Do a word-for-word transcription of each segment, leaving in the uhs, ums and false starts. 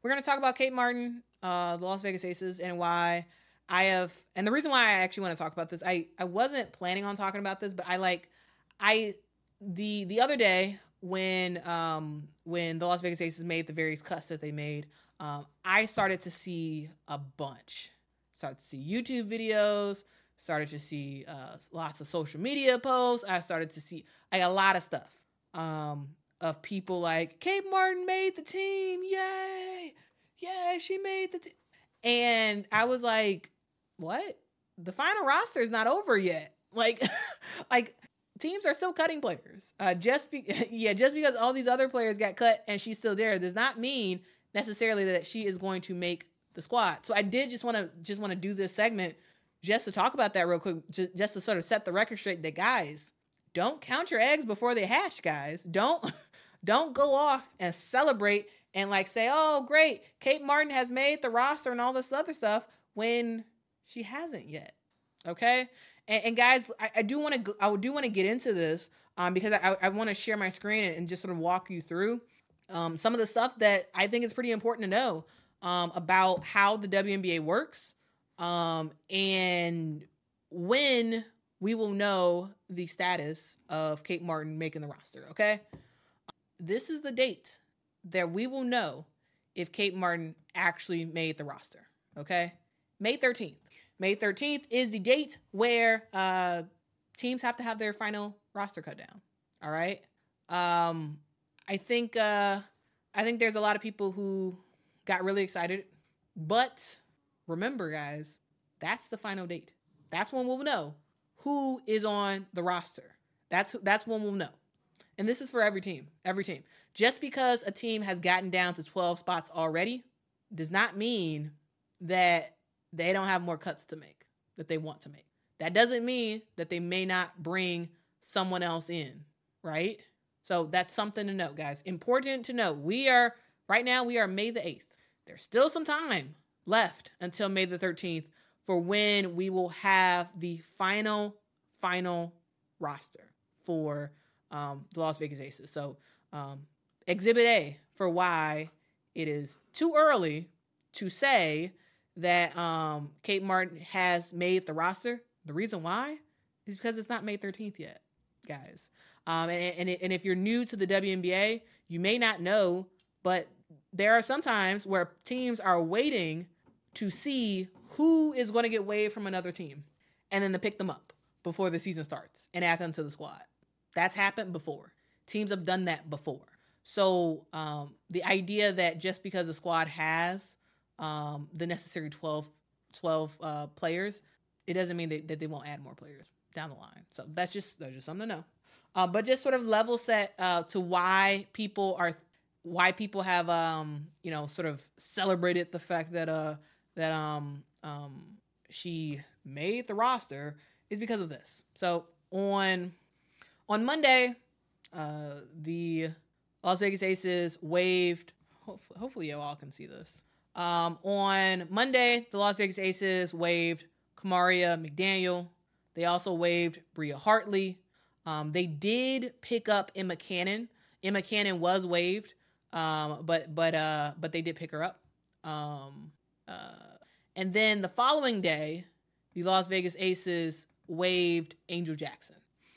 we're going to talk about Kate Martin, uh, the Las Vegas Aces, and why I have, and the reason why I actually want to talk about this, I, I wasn't planning on talking about this, but I like, I, the, the other day when, um, when the Las Vegas Aces made the various cuts that they made, um, I started to see a bunch, started to see YouTube videos, started to see, uh, lots of social media posts. I started to see like a lot of stuff, um, of people like Kate Martin made the team. Yay. Yay. She made the team. And I was like, what? The final roster is not over yet. Like, like teams are still cutting players. Uh, just be, yeah, just because all these other players got cut and she's still there does not mean necessarily that she is going to make the squad. So I did just want to just want to do this segment just to talk about that real quick, just, just to sort of set the record straight that guys, don't count your eggs before they hatch, guys. Don't don't go off and celebrate and like say, oh, great, Kate Martin has made the roster and all this other stuff when she hasn't yet. Okay. And, and guys, I, I do want to, I do want to get into this um, because I, I want to share my screen and, and just sort of walk you through um, some of the stuff that I think is pretty important to know um, about how the W N B A works um, and when we will know the status of Kate Martin making the roster. Okay. This is the date that we will know if Kate Martin actually made the roster. Okay. May thirteenth. May thirteenth is the date where uh, teams have to have their final roster cut down. All right. Um, I think uh, I think there's a lot of people who got really excited, but remember, guys, that's the final date. That's when we'll know who is on the roster. That's that's when we'll know. And this is for every team, every team. Just because a team has gotten down to twelve spots already does not mean that they don't have more cuts to make, that they want to make. That doesn't mean that they may not bring someone else in, right? So that's something to note, guys. Important to note. We are, right now, we are May the eighth. There's still some time left until May the thirteenth for when we will have the final, final roster for um, the Las Vegas Aces. So um, Exhibit A for why it is too early to say that um, Kate Martin has made the roster. The reason why is because it's not May thirteenth yet, guys. Um, and, and, and if you're new to the W N B A, you may not know, but there are some times where teams are waiting to see who is going to get waived from another team and then to pick them up before the season starts and add them to the squad. That's happened before. Teams have done that before. So um, the idea that just because a squad has um, the necessary twelve, twelve uh, players, it doesn't mean that, that they won't add more players down the line. So that's just that's just something to know. Uh, but just sort of level set uh, to why people are why people have um, you know sort of celebrated the fact that uh that um um she made the roster is because of this. So on on Monday, uh, the Las Vegas Aces waived. Hopefully, hopefully you all can see this. Um, on Monday, the Las Vegas Aces waived Kamaria McDaniel. They also waived Bria Hartley. Um, they did pick up Emma Cannon. Emma Cannon was waived, um, but but uh, but they did pick her up. Um, uh, and then the following day, the Las Vegas Aces waived Angel Jackson.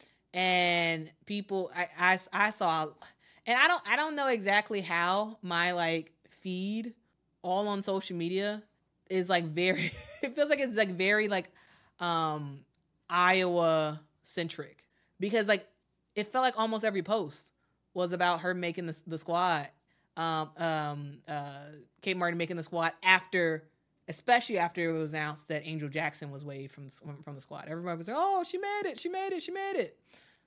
And people, I, I, I saw, and I don't I don't know exactly how my like feed all on social media is like very. It feels like it's like very like um, Iowa centric. Because, like, it felt like almost every post was about her making the, the squad. Um, um, uh, Kate Martin making the squad after, especially after it was announced that Angel Jackson was waived from, from the squad. Everybody was like, oh, she made it, she made it, she made it.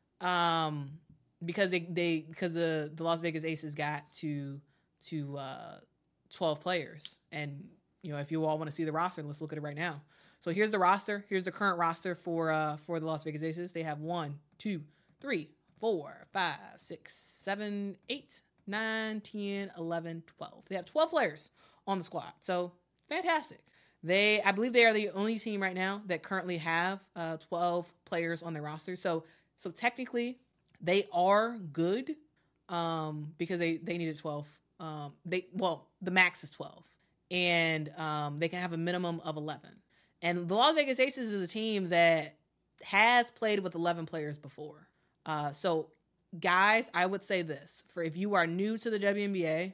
Um, because they, they because the, the Las Vegas Aces got to, to uh, twelve players. And, you know, if you all want to see the roster, let's look at it right now. So here's the roster. Here's the current roster for uh, for the Las Vegas Aces. They have one, two, three, four, five, six, seven, eight, nine, ten, eleven, twelve. They have twelve players on the squad. So fantastic. They, I believe they are the only team right now that currently have uh, twelve players on their roster. So so technically they are good um, because they, they needed twelve Um, they well, the max is twelve, and um, they can have a minimum of eleven. And the Las Vegas Aces is a team that has played with eleven players before. Uh, so, guys, I would say this: for if you are new to the W N B A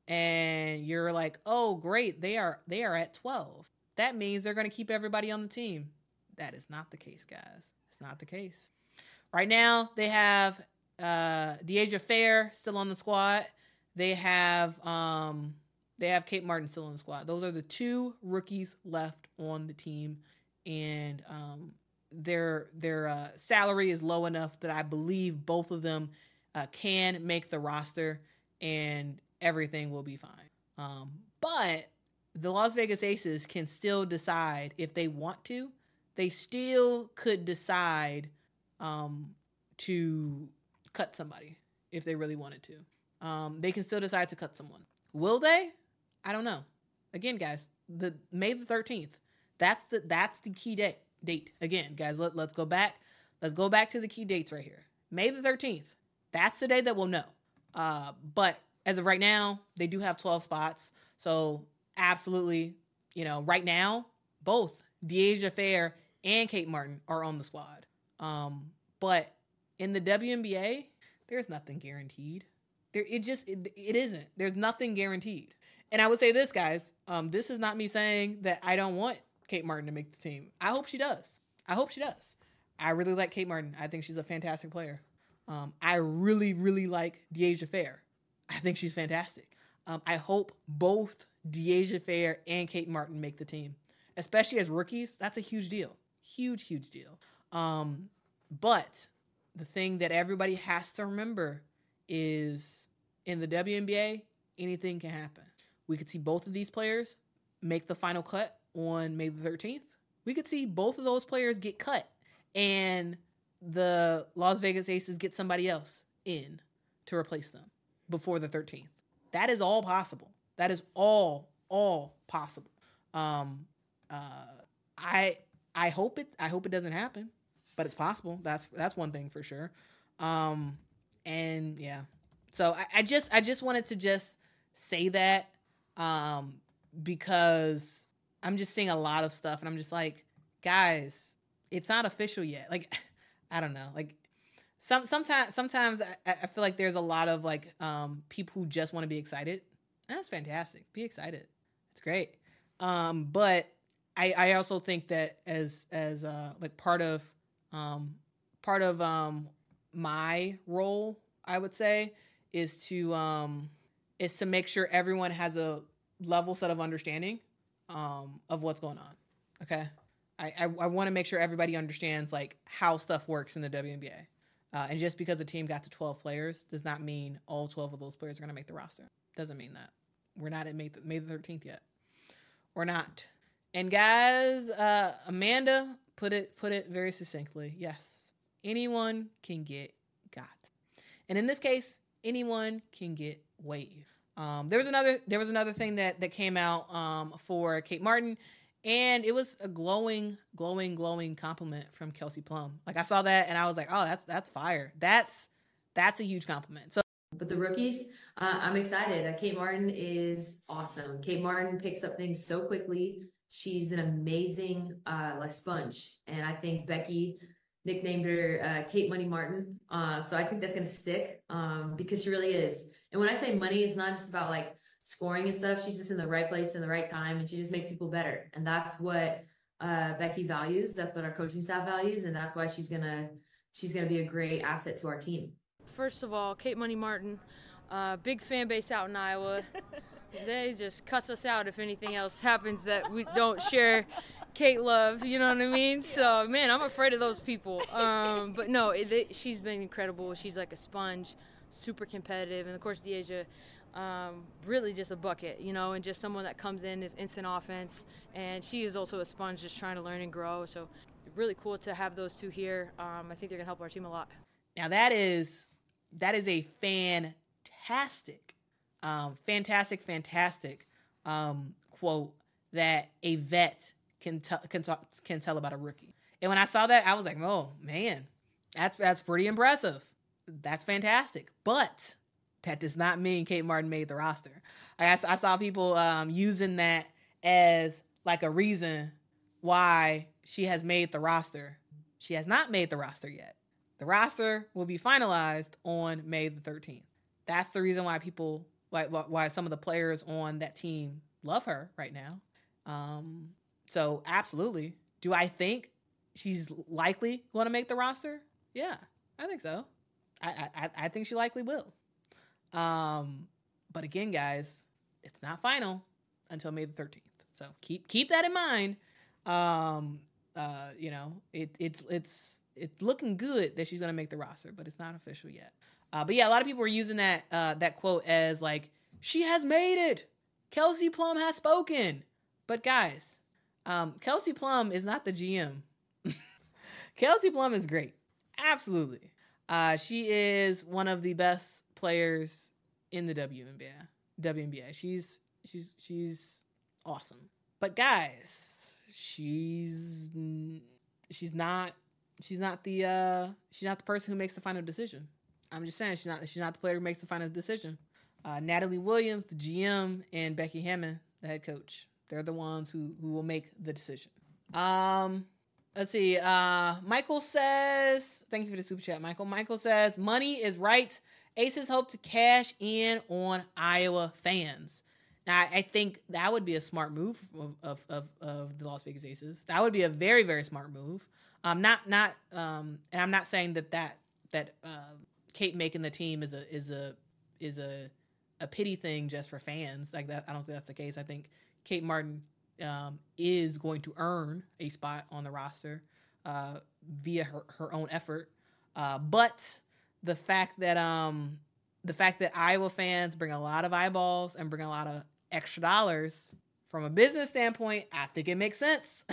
and you're like, "Oh, great, they are they are at twelve," that means they're going to keep everybody on the team. That is not the case, guys. It's not the case. Right now, they have uh, Deasia Fair still on the squad. They have um, they have Kate Martin still on the squad. Those are the two rookies left on the team, and um, their their uh, salary is low enough that I believe both of them uh, can make the roster, and everything will be fine. Um, but the Las Vegas Aces can still decide if they want to. They still could decide um, to cut somebody if they really wanted to. Um, they can still decide to cut someone. Will they? I don't know. Again, guys, the May the thirteenth. That's the that's the key date. Date again, guys. Let, let's go back. Let's go back to the key dates right here. May the thirteenth. That's the day that we'll know. Uh, but as of right now, they do have twelve spots. So absolutely, you know, right now, both Deasia Fair and Kate Martin are on the squad. Um, but in the W N B A, there's nothing guaranteed. There, it just, it, it isn't. There's nothing guaranteed. And I would say this, guys, um, this is not me saying that I don't want Kate Martin to make the team. I hope she does. I hope she does. I really like Kate Martin. I think she's a fantastic player. Um, I really, really like Deasia Fair. I think she's fantastic. Um, I hope both Deasia Fair and Kate Martin make the team, especially as rookies. That's a huge deal. Huge, huge deal. Um, but the thing that everybody has to remember is in the W N B A, anything can happen. We could see both of these players make the final cut on May the thirteenth. We could see both of those players get cut and the Las Vegas Aces get somebody else in to replace them before the thirteenth. That is all possible. That is all, all possible. Um, uh, I, I hope it, I hope it doesn't happen, but it's possible. That's, that's one thing for sure. Um, and yeah, so I, I just, I just wanted to just say that, um, because I'm just seeing a lot of stuff and I'm just like, guys, it's not official yet. Like, I don't know. Like some, sometimes, sometimes I, I feel like there's a lot of like, um, people who just want to be excited. And that's fantastic. Be excited. It's great. Um, but I, I also think that as, as, uh, like part of, um, part of, um, my role, I would say, is to, um, is to make sure everyone has a level set of understanding, um, of what's going on. Okay. I, I, I want to make sure everybody understands like how stuff works in the W N B A. Uh, and just because a team got to twelve players does not mean all twelve of those players are going to make the roster. Doesn't mean that. We're not at May the, May the thirteenth yet. We're not. And guys, uh, Amanda put it, put it very succinctly. Yes. Anyone can get got. And in this case, anyone can get waived. Um, there was another, there was another thing that, that came out, um, for Kate Martin. And it was a glowing, glowing, glowing compliment from Kelsey Plum. Like I saw that and I was like, oh, that's, that's fire. That's, that's a huge compliment. So, but the rookies, uh, I'm excited. Uh, Kate Martin is awesome. Kate Martin picks up things so quickly. She's an amazing, uh, like sponge. And I think Becky nicknamed her, uh, Kate Money Martin. Uh, so I think that's going to stick, um, because she really is. And when I say money, it's not just about like scoring and stuff. She's just in the right place in the right time, and she just makes people better. And that's what uh, Becky values. That's what our coaching staff values, and that's why she's gonna she's gonna be a great asset to our team. First of all, Kate Money Martin, uh, big fan base out in Iowa. They just cuss us out if anything else happens that we don't share Kate love. You know what I mean? So man, I'm afraid of those people. Um, but no, it, it, she's been incredible. She's like a sponge, super competitive, and of course Deasia. Um, really just a bucket, you know, and just someone that comes in is instant offense. And she is also a sponge just trying to learn and grow. So really cool to have those two here. Um, I think they're going to help our team a lot. Now that is, that is a fantastic, um, fantastic, fantastic um, quote that a vet can, t- can, talk, can tell about a rookie. And when I saw that, I was like, oh man, that's, that's pretty impressive. That's fantastic. But That does not mean Kate Martin made the roster. I, I saw people um, using that as like a reason why she has made the roster. She has not made the roster yet. The roster will be finalized on May the thirteenth. That's the reason why people, why, why some of the players on that team love her right now. Um, so absolutely. Do I think she's likely going to make the roster? Yeah, I think so. I, I, I think she likely will. Um, but again, guys, it's not final until May the thirteenth. So keep keep that in mind. Um, uh, you know, it, it's it's it's looking good that she's going to make the roster, but it's not official yet. Uh, but yeah, a lot of people were using that uh, that quote as like, she has made it. Kelsey Plum has spoken. But guys, um, Kelsey Plum is not the G M. Kelsey Plum is great. Absolutely. Uh, she is one of the best players in the W N B A. W N B A. She's she's she's awesome. But guys, she's she's not she's not the uh, she's not the person who makes the final decision. I'm just saying she's not she's not the player who makes the final decision. Uh, Natalie Williams, the G M, and Becky Hammond, the head coach. They're the ones who who will make the decision. Um, let's see. Uh, Michael says, thank you for the super chat, Michael. Michael says, money is right. Aces hope to cash in on Iowa fans. Now, I think that would be a smart move of of of, of the Las Vegas Aces. That would be a very very smart move. Um, not not um, and I'm not saying that that that uh, Kate making the team is a is a is a a pity thing just for fans like that. I don't think that's the case. I think Kate Martin um, is going to earn a spot on the roster uh, via her, her own effort. Uh, but the fact that um, the fact that Iowa fans bring a lot of eyeballs and bring a lot of extra dollars from a business standpoint, I think it makes sense.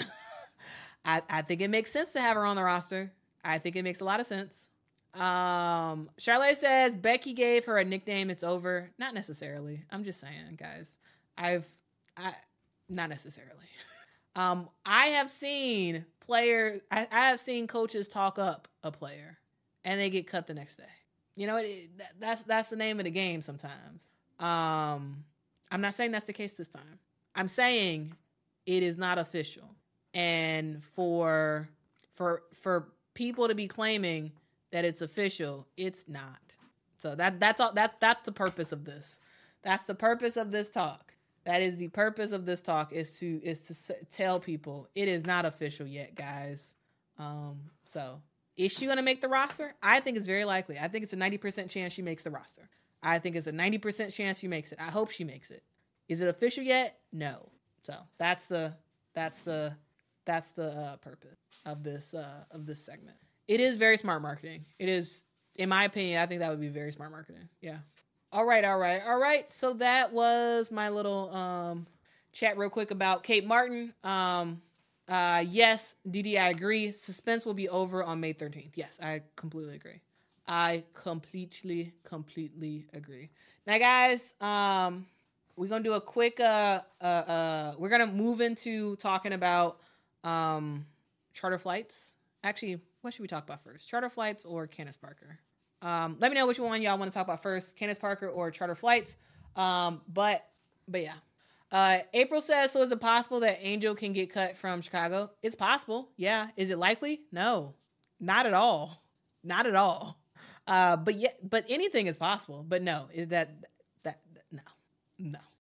I, I think it makes sense to have her on the roster. I think it makes a lot of sense. Um, Charlotte says Becky gave her a nickname. It's over. Not necessarily. I'm just saying, guys. I've I not necessarily. um, I have seen players. I, I have seen coaches talk up a player, and they get cut the next day. You know, it, that, that's that's the name of the game. Sometimes. Um, I'm not saying that's the case this time. I'm saying it is not official, and for for for people to be claiming that it's official, it's not. So that that's all. That that's the purpose of this. That's the purpose of this talk. That is the purpose of this talk is to is to s- tell people it is not official yet, guys. Um, so is she going to make the roster? I think it's very likely. I think it's a ninety percent chance she makes the roster. I think it's a ninety percent chance she makes it. I hope she makes it. Is it official yet? No. So that's the that's the that's the uh, purpose of this uh, of this segment. It is very smart marketing. It is, in my opinion, I think that would be very smart marketing. Yeah. All right, all right, all right. So that was my little um, chat real quick about Kate Martin. Um, uh, yes, D D, I agree. Suspense will be over on May thirteenth. Yes, I completely agree. I completely, completely agree. Now, guys, um, we're going to do a quick, uh, uh, uh, we're going to move into talking about um, charter flights. Actually, what should we talk about first? Charter flights or Candace Parker? Um, let me know which one y'all want to talk about first, Candace Parker or charter flights. Um, but, but yeah. Uh, April says, so is it possible that Angel can get cut from Chicago? It's possible. Yeah. Is it likely? No, not at all. Not at all. Uh, but yeah, but anything is possible, but no, that, that, that no, no.